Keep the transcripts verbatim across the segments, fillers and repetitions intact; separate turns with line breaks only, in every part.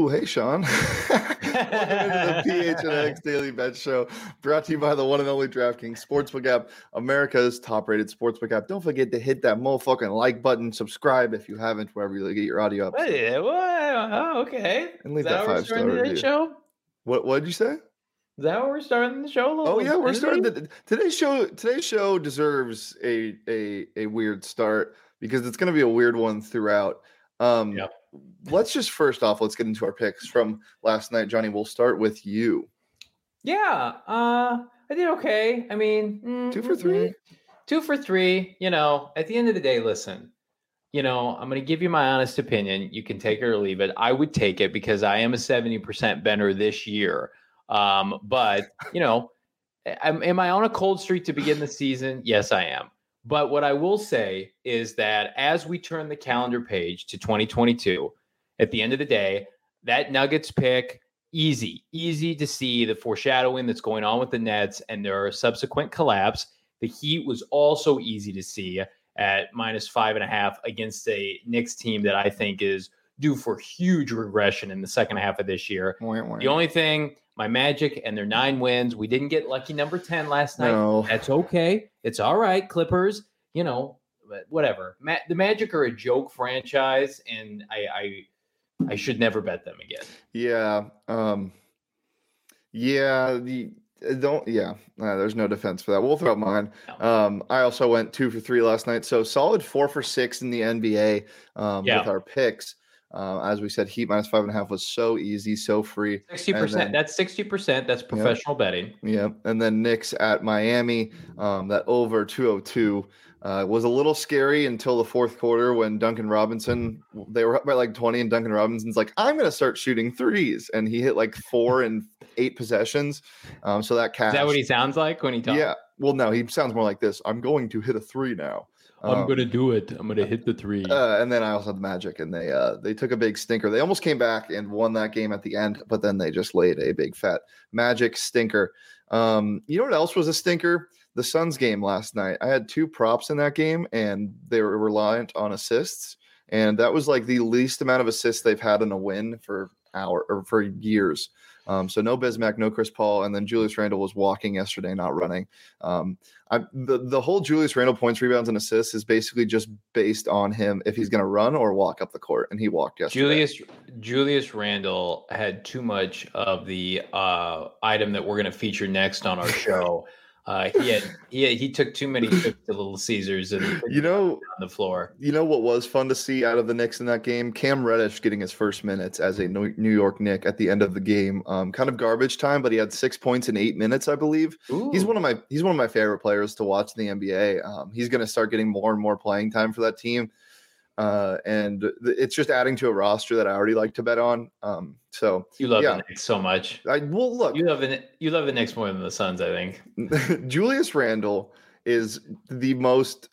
Ooh, hey, Sean. Welcome into the P H N X Daily Bet Show, brought to you by the one and only DraftKings Sportsbook app, America's top-rated sportsbook app. Don't forget to hit that motherfucking like button, subscribe if you haven't, wherever you get your audio up.
Hey, what? Oh, okay.
And leave
Is that,
that
how we're
five-star
starting
review.
today's show?
What What did you say?
Is that how we're starting the show? A little
Oh yeah, we're
busy?
starting the, today's show. Today's show deserves a a a weird start because it's going to be a weird one throughout. Um,
Yep.
Let's just first off, let's get into our picks from last night. Johnny, we'll start with you.
Yeah, uh, I did okay. I mean, mm,
Two for
mm,
three?
mm. Two for three. You know, at the end of the day, listen, you know, I'm going to give you my honest opinion. You can take it or leave it. I would take it because I am a seventy percent bettor this year. Um, but, you know, am, am I on a cold streak to begin the season? Yes, I am. But what I will say is that as we turn the calendar page to twenty twenty-two, at the end of the day, that Nuggets pick, easy, easy to see the foreshadowing that's going on with the Nets and their subsequent collapse. The Heat was also easy to see at minus five and a half against a Knicks team that I think is due for huge regression in the second half of this year.
Wah, wah.
The only thing, my Magic and their nine wins, we didn't get lucky number ten last night.
No.
That's okay. It's all right, Clippers. You know, whatever. Ma- the Magic are a joke franchise, and I, I I should never bet them again.
Yeah. Um, yeah. The don't. Yeah. Uh, there's no defense for that. We'll throw out mine.
No.
Um, I also went two for three last night, so solid four for six in the N B A um,
Yeah.
with our picks. Uh, as we said, Heat minus five and a half was so easy, so free.
sixty
And
percent.
then-
That's sixty percent. That's professional betting.
Yeah, and then Knicks at Miami, um, that over two oh two uh, was a little scary until the fourth quarter when Duncan Robinson, they were up by like twenty, and Duncan Robinson's like, I'm going to start shooting threes, and he hit like four in eight possessions. Um, so that cash.
Is that what he sounds like when he talks?
Yeah. Well, no, he sounds more like this. I'm going to hit a three now.
I'm
Um,
going to do it. I'm going to hit the three.
Uh, and then I also had the Magic, and they uh, they took a big stinker. They almost came back and won that game at the end, but then they just laid a big fat Magic stinker. Um, you know what else was a stinker? The Suns game last night. I had two props in that game, and they were reliant on assists, and that was like the least amount of assists they've had in a win for hour or for years. Um, so no Bismack, no Chris Paul, and then Julius Randle was walking yesterday, not running. Um, I, the the whole Julius Randle points, rebounds, and assists is basically just based on him if he's going to run or walk up the court, and he walked yesterday.
Julius Julius Randle had too much of the uh, item that we're going to feature next on our show. Uh, he had he he took too many trips to Little Caesars and
You know,
on the floor.
You know what was fun to see out of the Knicks in that game? Cam Reddish getting his first minutes as a New York Knick at the end of the game. Um, kind of garbage time, but he had six points in eight minutes, I believe.
Ooh.
He's one of my he's one of my favorite players to watch in the N B A. Um, he's going to start getting more and more playing time for that team, uh, and th- it's just adding to a roster that I already like to bet on. Um, so
You love
yeah.
the Knicks so much.
I well look.
You love the you love the Knicks more than the Suns, I think.
Julius Randle is the most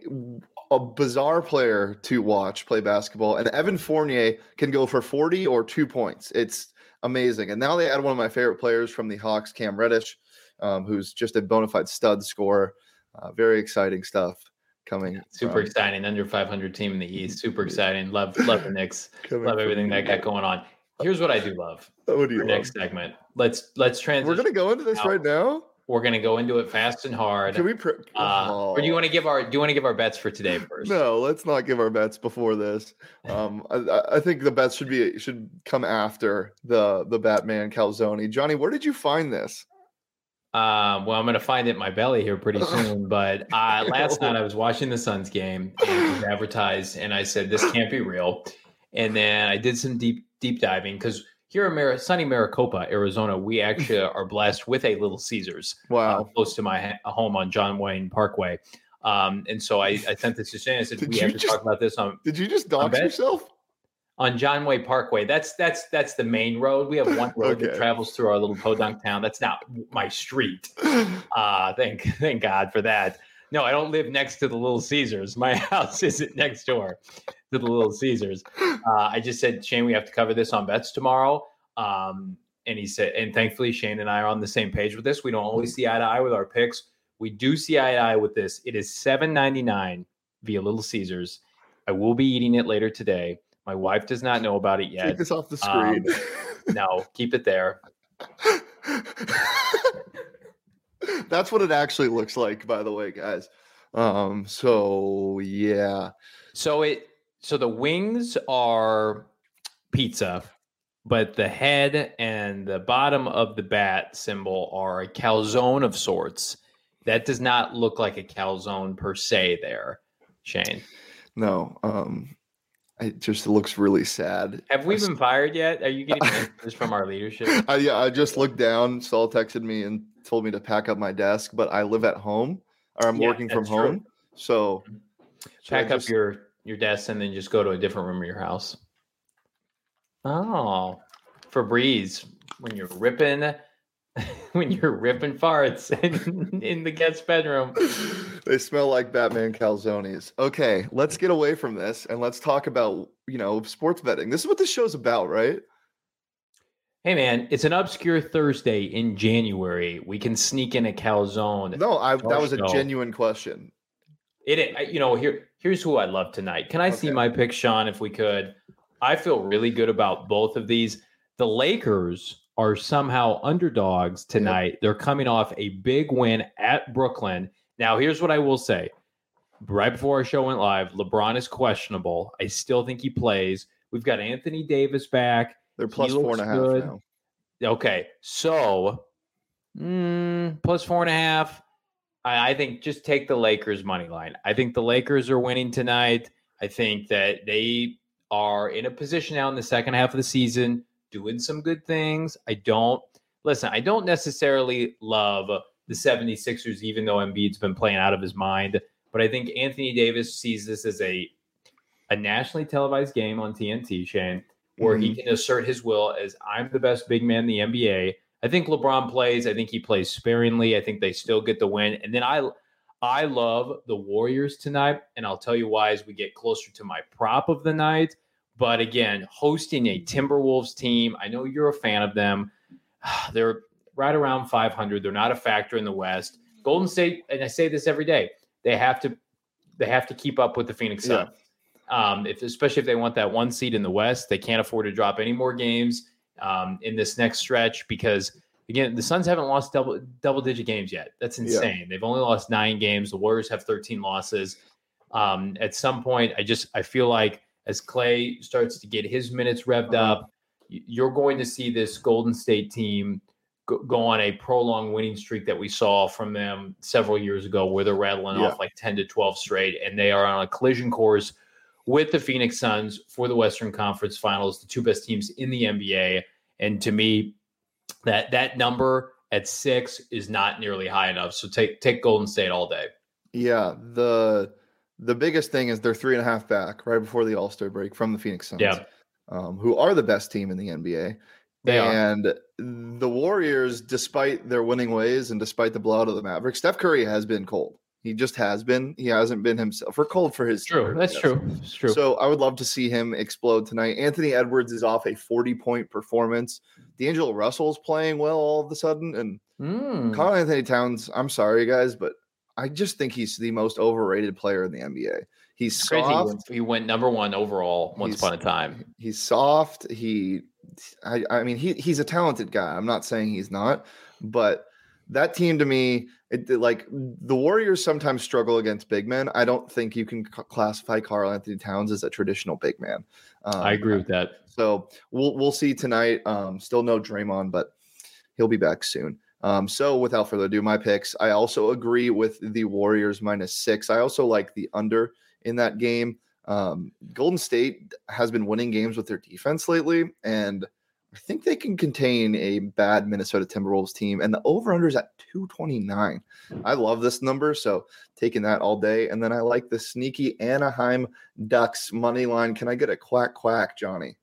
a bizarre player to watch play basketball, and Evan Fournier can go for forty or two points. It's amazing. And now they add one of my favorite players from the Hawks, Cam Reddish, um, who's just a bona fide stud scorer. Uh, very exciting stuff coming.
Super
from,
exciting. Under five hundred team in the East. Super exciting. Love love the Knicks.
coming
Love
from
everything
you.
that got going on. Here's what I do love.
What do you
Our
love?
next segment. Let's let's transition.
We're gonna go into this
now.
right now.
We're gonna go into it fast and hard.
Can we? Pre-
Uh,
oh.
Or do you want to give our do you want to give our bets for today first?
No, let's not give our bets before this. Um, I, I think the bets should be should come after the the Batman Calzone. Johnny, where did you find this?
Um, well, I'm gonna find it in my belly here pretty soon. But uh, last night I was watching the Suns game and it was advertised, and I said this can't be real. And then I did some deep deep diving because here in Mar- sunny Maricopa, Arizona, we actually are blessed with a Little Caesars.
Wow.
Uh, close to my ha- home on John Wayne Parkway. Um, and so I, I sent this to Shane. I said,
Did
we
you
have to
just-
talk about this on,
Did you just dox
bet.
yourself?
on John Wayne Parkway. That's that's that's the main road. We have one road that
Okay.
travels through our little podunk town. That's not my street. Uh, thank thank God for that. No, I don't live next to the Little Caesars. My house isn't next door to the Little Caesars. Uh, I just said, Shane, we have to cover this on bets tomorrow. Um, and he said, and thankfully, Shane and I are on the same page with this. We don't always see eye to eye with our picks. We do see eye to eye with this. It is seven ninety-nine via Little Caesars. I will be eating it later today, My wife does not know about it yet.
Take this off the screen.
Um, no, keep it there.
That's what it actually looks like, by the way, guys. Um, so yeah.
So it so the wings are pizza, but the head and the bottom of the bat symbol are a calzone of sorts. That does not look like a calzone per se there, Shane.
No, um, it just looks really sad.
Have we been fired yet? Are you getting messages from our leadership?
I, yeah, I just looked down. Saul texted me and told me to pack up my desk, but I live at home or I'm
Yeah,
working from
that's
home.
true.
So
Pack
I
up
just-
your, your desk and then just go to a different room of your house. Oh, Febreze, when you're ripping, when you're ripping farts in, in the guest bedroom.
They smell like Batman calzones. Okay, let's get away from this and let's talk about, you know, sports betting. This is what this show's about, right?
Hey man, it's an obscure Thursday in January. We can sneak in a calzone.
No, I that was a
show.
genuine question.
It, you know, here, here's who I love tonight. Can I
Okay.
see my pick, Sean, if we could? I feel really good about both of these. The Lakers are somehow underdogs tonight. Yep. They're coming off a big win at Brooklyn. Now, here's what I will say. Right before our show went live, LeBron is questionable. I still think he plays. We've got Anthony Davis back.
They're plus four and a half
good.
now.
Okay, so mm, plus four and a half. I, I think just take the Lakers money line. I think the Lakers are winning tonight. I think that they are in a position now in the second half of the season doing some good things. I don't listen. I don't necessarily love the seventy-sixers, even though Embiid's been playing out of his mind. But I think Anthony Davis sees this as a a nationally televised game on T N T, Shane, where mm-hmm. he can assert his will as I'm the best big man in the N B A. I think LeBron plays. I think he plays sparingly. I think they still get the win. And then I I love the Warriors tonight, and I'll tell you why as we get closer to my prop of the night. But again, hosting a Timberwolves team, I know you're a fan of them. They're right around five hundred. They're not a factor in the West. Golden State, and I say this every day, they have to they have to keep up with the Phoenix Suns. Yeah. Um, if, especially if they want that one seed in the West, they can't afford to drop any more games um, in this next stretch because, again, the Suns haven't lost double double digit games yet. That's insane. Yeah. They've only lost nine games. The Warriors have thirteen losses. Um, at some point, I just I feel like as Clay starts to get his minutes revved uh-huh. up, you're going to see this Golden State team go, go on a prolonged winning streak that we saw from them several years ago where they're rattling yeah. off like ten to twelve straight, and they are on a collision course with the Phoenix Suns for the Western Conference Finals, the two best teams in the N B A. And to me, that that number at six is not nearly high enough. So take take Golden State all day.
Yeah, the the biggest thing is they're three and a half back right before the All-Star break from the Phoenix Suns,
yeah.
um, who are the best team in the N B A.
They
and
are.
The Warriors, despite their winning ways and despite the blowout of the Mavericks, Steph Curry has been cold. He just has been. He hasn't been himself. Or cold for his.
True. That's true. That's true.
So I would love to see him explode tonight. Anthony Edwards is off a forty-point performance. D'Angelo Russell's playing well all of a sudden. And
mm.
Karl Anthony Towns, I'm sorry, guys, but I just think he's the most overrated player in the N B A. He's
Crazy.
soft.
He went number one overall once
he's,
upon a time.
He's soft. He, I, I mean, he he's a talented guy. I'm not saying he's not, but that team to me, it, it, like the Warriors sometimes struggle against big men. I don't think you can c- classify Karl Anthony Towns as a traditional big man. Um,
I agree with that.
So we'll we'll see tonight. Um, still no Draymond, but he'll be back soon. Um, so without further ado, my picks. I also agree with the Warriors minus six. I also like the under in that game. Um, Golden State has been winning games with their defense lately, and I think they can contain a bad Minnesota Timberwolves team. And the over-under is at two twenty-nine. I love this number, so taking that all day. And then I like the sneaky Anaheim Ducks money line. Can I get a quack quack, Johnny?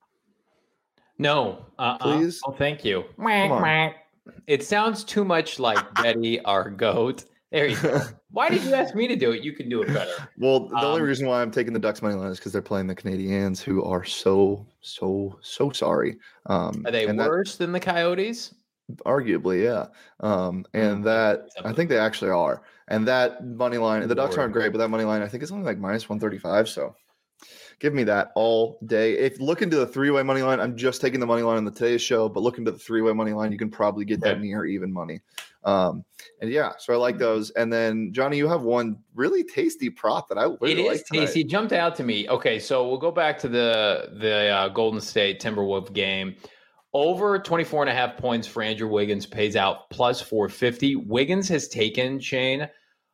No. Uh-uh.
Please?
Oh, thank you.
Come on.
It sounds too much like Betty, our goat. There you go. Why did you ask me to do it? You can do it better.
Well, the
um,
only reason why I'm taking the Ducks money line is because they're playing the Canadiens, who are so, so, so sorry. Um,
are they worse
that,
than the Coyotes?
Arguably, yeah. Um, and that I think they actually are. And that money line, the Ducks aren't great, but that money line I think is only like minus one thirty-five. So Give me that all day. If look into the three-way money line, I'm just taking the money line on the Today's Show, but look into the three-way money line, you can probably get that
Okay.
near even money. Um, and yeah, so I like those. And then Johnny, you have one really tasty prop that I really
It is
like tonight.
tasty. It jumped out to me. Okay, so we'll go back to the the uh, Golden State Timberwolves game. Over twenty-four and a half points for Andrew Wiggins pays out plus four fifty. Wiggins has taken, Shane,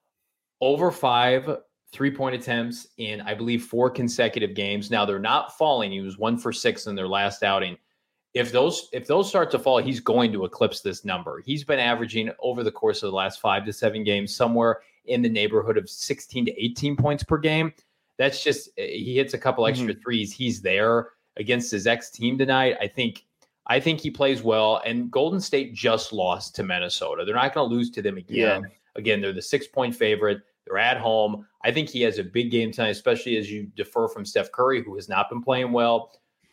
over five three-point attempts in, I believe, four consecutive games. Now, they're not falling. He was one for six in their last outing. If those if those start to fall, he's going to eclipse this number. He's been averaging over the course of the last five to seven games somewhere in the neighborhood of sixteen to eighteen points per game. That's just, he hits a couple extra mm-hmm. threes. He's there against his ex-team tonight. I think I think he plays well. And Golden State just lost to Minnesota. They're not going to lose to them again. Yeah. Again, they're the six-point favorite. They're at home. I think he has a big game tonight, especially as you defer from Steph Curry, who has not been playing well.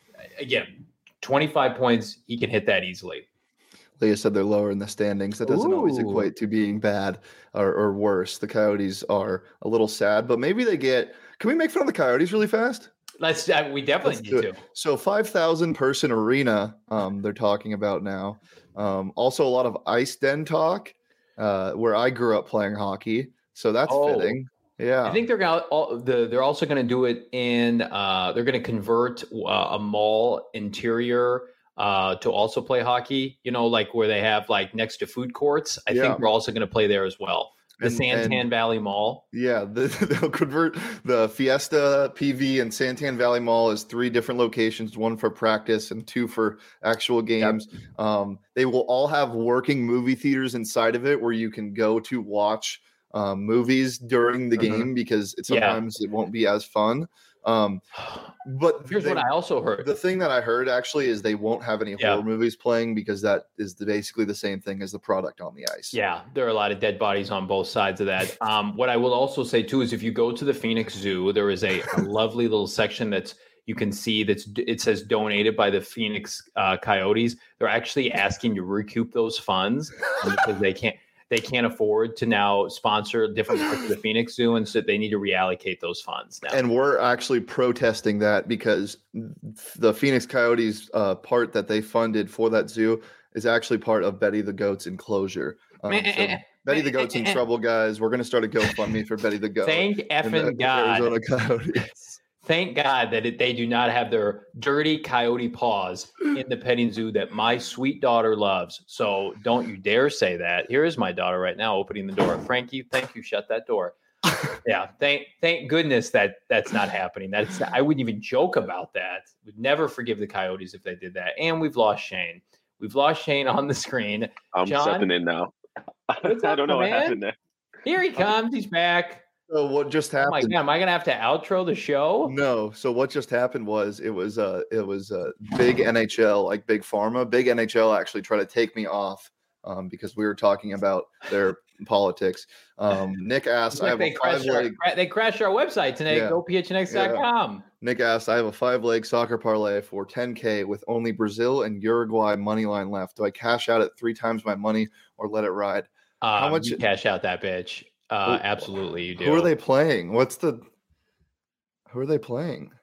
Again, twenty-five points, he can hit that easily.
Leah said they're lower in the standings. That doesn't
Ooh.
always equate to being bad or, or worse. The Coyotes are a little sad, but maybe they get – can we make fun of the Coyotes really fast?
Let's. Uh, we definitely
Let's
need to.
So five thousand person arena um, they're talking about now. Um, also a lot of ice den talk uh, where I grew up playing hockey. So that's
oh.
fitting. Yeah,
I think they're going to. The, they're also going to do it in. Uh, they're going to convert uh, a mall interior uh, to also play hockey. You know, like where they have like next to food courts. I yeah. think we're also going to play there as well. The and, Santan and, Valley Mall.
Yeah, the, they'll convert the Fiesta P V and Santan Valley Mall as three different locations, one for practice and two for actual games. Yep. Um, they will all have working movie theaters inside of it where you can go to watch um, movies during the mm-hmm. game because it, sometimes yeah. it won't be as fun. Um, but
here's they, what I also heard.
The thing that I heard actually is they won't have any
yeah.
horror movies playing because that is the, basically the same thing as the product on the ice.
Yeah, there are a lot of dead bodies on both sides of that. Um, what I will also say too is if you go to the Phoenix Zoo, there is a, a lovely little section that's you can see that's it says donated by the Phoenix uh, Coyotes. They're actually asking to recoup those funds because they can't. They can't afford to now sponsor different parts of the Phoenix Zoo, and so they need to reallocate those funds now.
And we're actually protesting that because the Phoenix Coyotes uh, part that they funded for that zoo is actually part of Betty the Goat's enclosure. Um, so Betty the Goat's in trouble, guys. We're going to start a GoFundMe for Betty the Goat.
Thank effing God.
Arizona Coyotes.
Thank God that it, they do not have their dirty coyote paws in the petting zoo that my sweet daughter loves. So don't you dare say that. Here is my daughter right now opening the door. Frankie, thank you. Shut that door. Yeah, thank thank goodness that that's not happening. That's not, I wouldn't even joke about that. Would never forgive the Coyotes if they did that. And we've lost Shane. We've lost Shane on the screen.
I'm
John,
stepping in now.
What's up,
I don't know
man?
what happened there.
Here he comes. He's back.
So what just happened?
Oh my God, am I gonna have to outro the show?
No. So what just happened was it was uh it was a uh, big N H L, like big pharma. Big N H L actually tried to take me off um, because we were talking about their politics. Um, Nick asked,
like
I have
they
a five leg.
Our, they crashed our website today.
Yeah.
go P H N X dot com.
Yeah. Nick asked, I have a five leg soccer parlay for ten K with only Brazil and Uruguay money line left. Do I cash out at three times my money or let it ride?
Um, How much? You cash out that bitch. Uh, who, absolutely, you do.
Who are they playing? What's the? Who are they playing?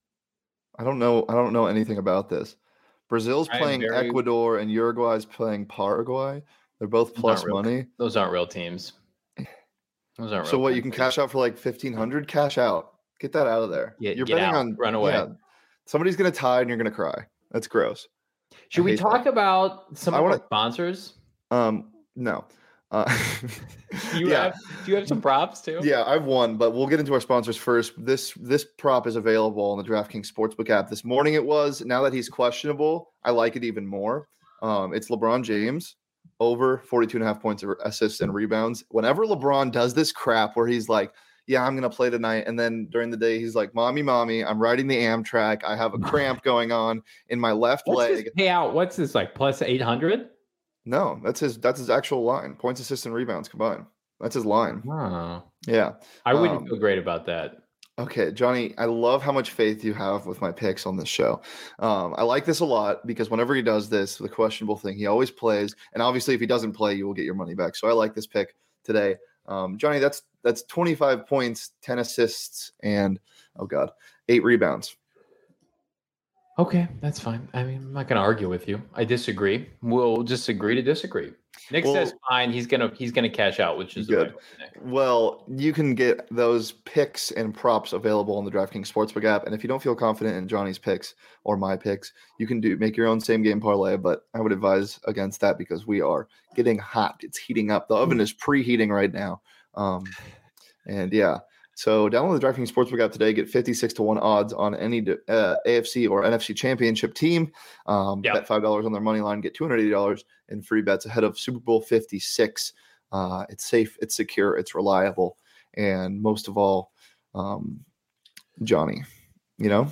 I don't know. I don't know anything about this. Brazil's playing very... Ecuador and Uruguay's playing Paraguay. They're both plus
real,
money.
Those aren't real teams. Those aren't.
So
real
what?
teams.
You can cash out for like fifteen hundred. Cash out. Get that out of there.
Get,
you're
get
betting
out.
on
Run away. Yeah,
somebody's gonna tie and you're gonna cry. That's gross.
Should we talk
that.
about some
I
of
wanna,
our sponsors?
Um, no. Uh,
you
yeah.
have do you have some props too?
Yeah, I've won, but we'll get into our sponsors first. This this prop is available on the DraftKings Sportsbook app. This morning it was. Now that he's questionable, I like it even more. Um, it's LeBron James over forty-two and a half points of assists and rebounds. Whenever LeBron does this crap where he's like, yeah, I'm going to play tonight. And then during the day, he's like, mommy, mommy, I'm riding the Amtrak. I have a cramp going on in my left
What's
leg.
His payout? What's this, like plus eight hundred?
No, that's his that's his actual line. Points, assists, and rebounds combined. That's his line.
Oh.
Yeah.
I wouldn't
um,
feel great about that.
Okay, Johnny, I love how much faith you have with my picks on this show. Um, I like this a lot because whenever he does this, the questionable thing, he always plays. And obviously, if he doesn't play, you will get your money back. So I like this pick today. Um, Johnny, that's that's twenty-five points, ten assists, and oh god, eight rebounds.
Okay, that's fine. I mean, I'm not going to argue with you. I disagree. We'll just agree to disagree. Nick
Well,
says fine. He's gonna he's gonna cash out, which is
good.
The right way,
well, you can get those picks and props available on the DraftKings Sportsbook app. And if you don't feel confident in Johnny's picks or my picks, you can do make your own same game parlay. But I would advise against that because we are getting hot. It's heating up. The oven is preheating right now. Um, and yeah. So download the DraftKings Sportsbook app today. Get fifty-six to one odds on any uh, A F C or N F C championship team. Um, yep. Bet five dollars on their money line. Get two hundred eighty dollars in free bets ahead of Super Bowl fifty-six. Uh, it's safe, it's secure, it's reliable. And most of all, um, Johnny, you know?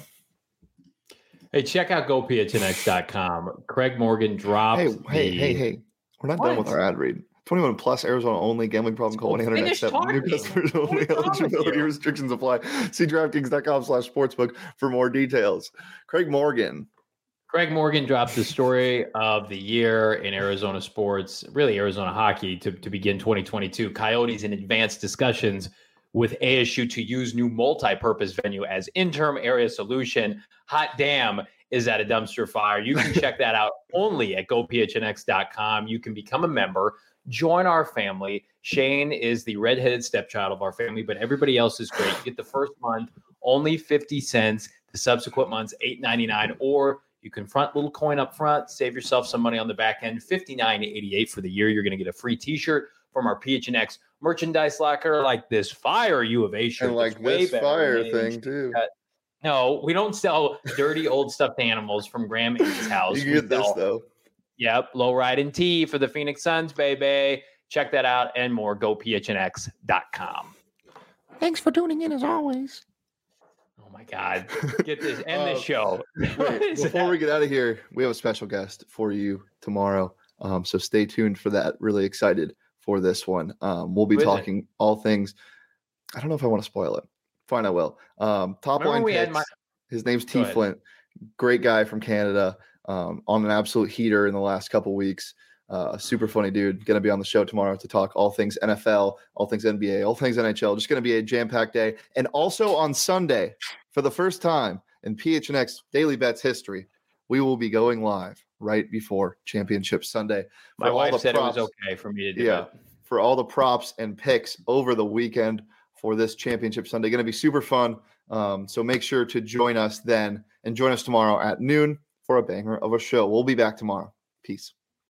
Hey, check out go P H N X dot com. Craig Morgan dropped
Hey,
the...
hey, hey, hey. We're not what? done with our ad read. twenty-one plus, Arizona only, gambling problem, call one eight hundred next step. New customers only, eligibility restrictions apply. See DraftKings.com slash sportsbook for more details. Craig Morgan.
Craig Morgan dropped the story of the year in Arizona sports, really Arizona hockey, to, to begin twenty twenty-two. Coyotes in advanced discussions with A S U to use new multi-purpose venue as interim area solution. Hot damn, is that a dumpster fire? You can check that out only at go P H N X dot com. You can become a member. Join our family. Shane is the redheaded stepchild of our family, but everybody else is great. You get the first month only fifty cents, the subsequent months eight ninety-nine, or you can front little coin up front, save yourself some money on the back end, fifty-nine eighty-eight for the year. You're going to get a free T-shirt from our P H N X merchandise locker, like this fire U of A shirt,
and like this fire thing too.
No, we don't sell dirty old stuffed animals from Graham Amy's house.
You get this though.
Yep, low ride and tee for the Phoenix Suns, baby. Check that out and more. go P H N X dot com.
Thanks for tuning in as always.
Oh my God. Get this. End uh, the show.
Wait, before that? we get out of here, we have a special guest for you tomorrow. Um, so stay tuned for that. Really excited for this one. Um, we'll be Who talking all things. I don't know if I want to spoil it. Fine, I will. Um, top Remember line picks. My... His name's T. Flint. Great guy from Canada. Um, on an absolute heater in the last couple weeks. Uh, super funny dude. Going to be on the show tomorrow to talk all things N F L, all things N B A, all things N H L. Just going to be a jam-packed day. And also on Sunday, for the first time in P H N X Daily Bets history, we will be going live right before Championship Sunday.
My wife said props, it was okay for me to do
yeah,
that.
For all the props and picks over the weekend for this Championship Sunday. Going to be super fun. Um, so make sure to join us then and join us tomorrow at noon for a banger of a show. We'll be back tomorrow. Peace.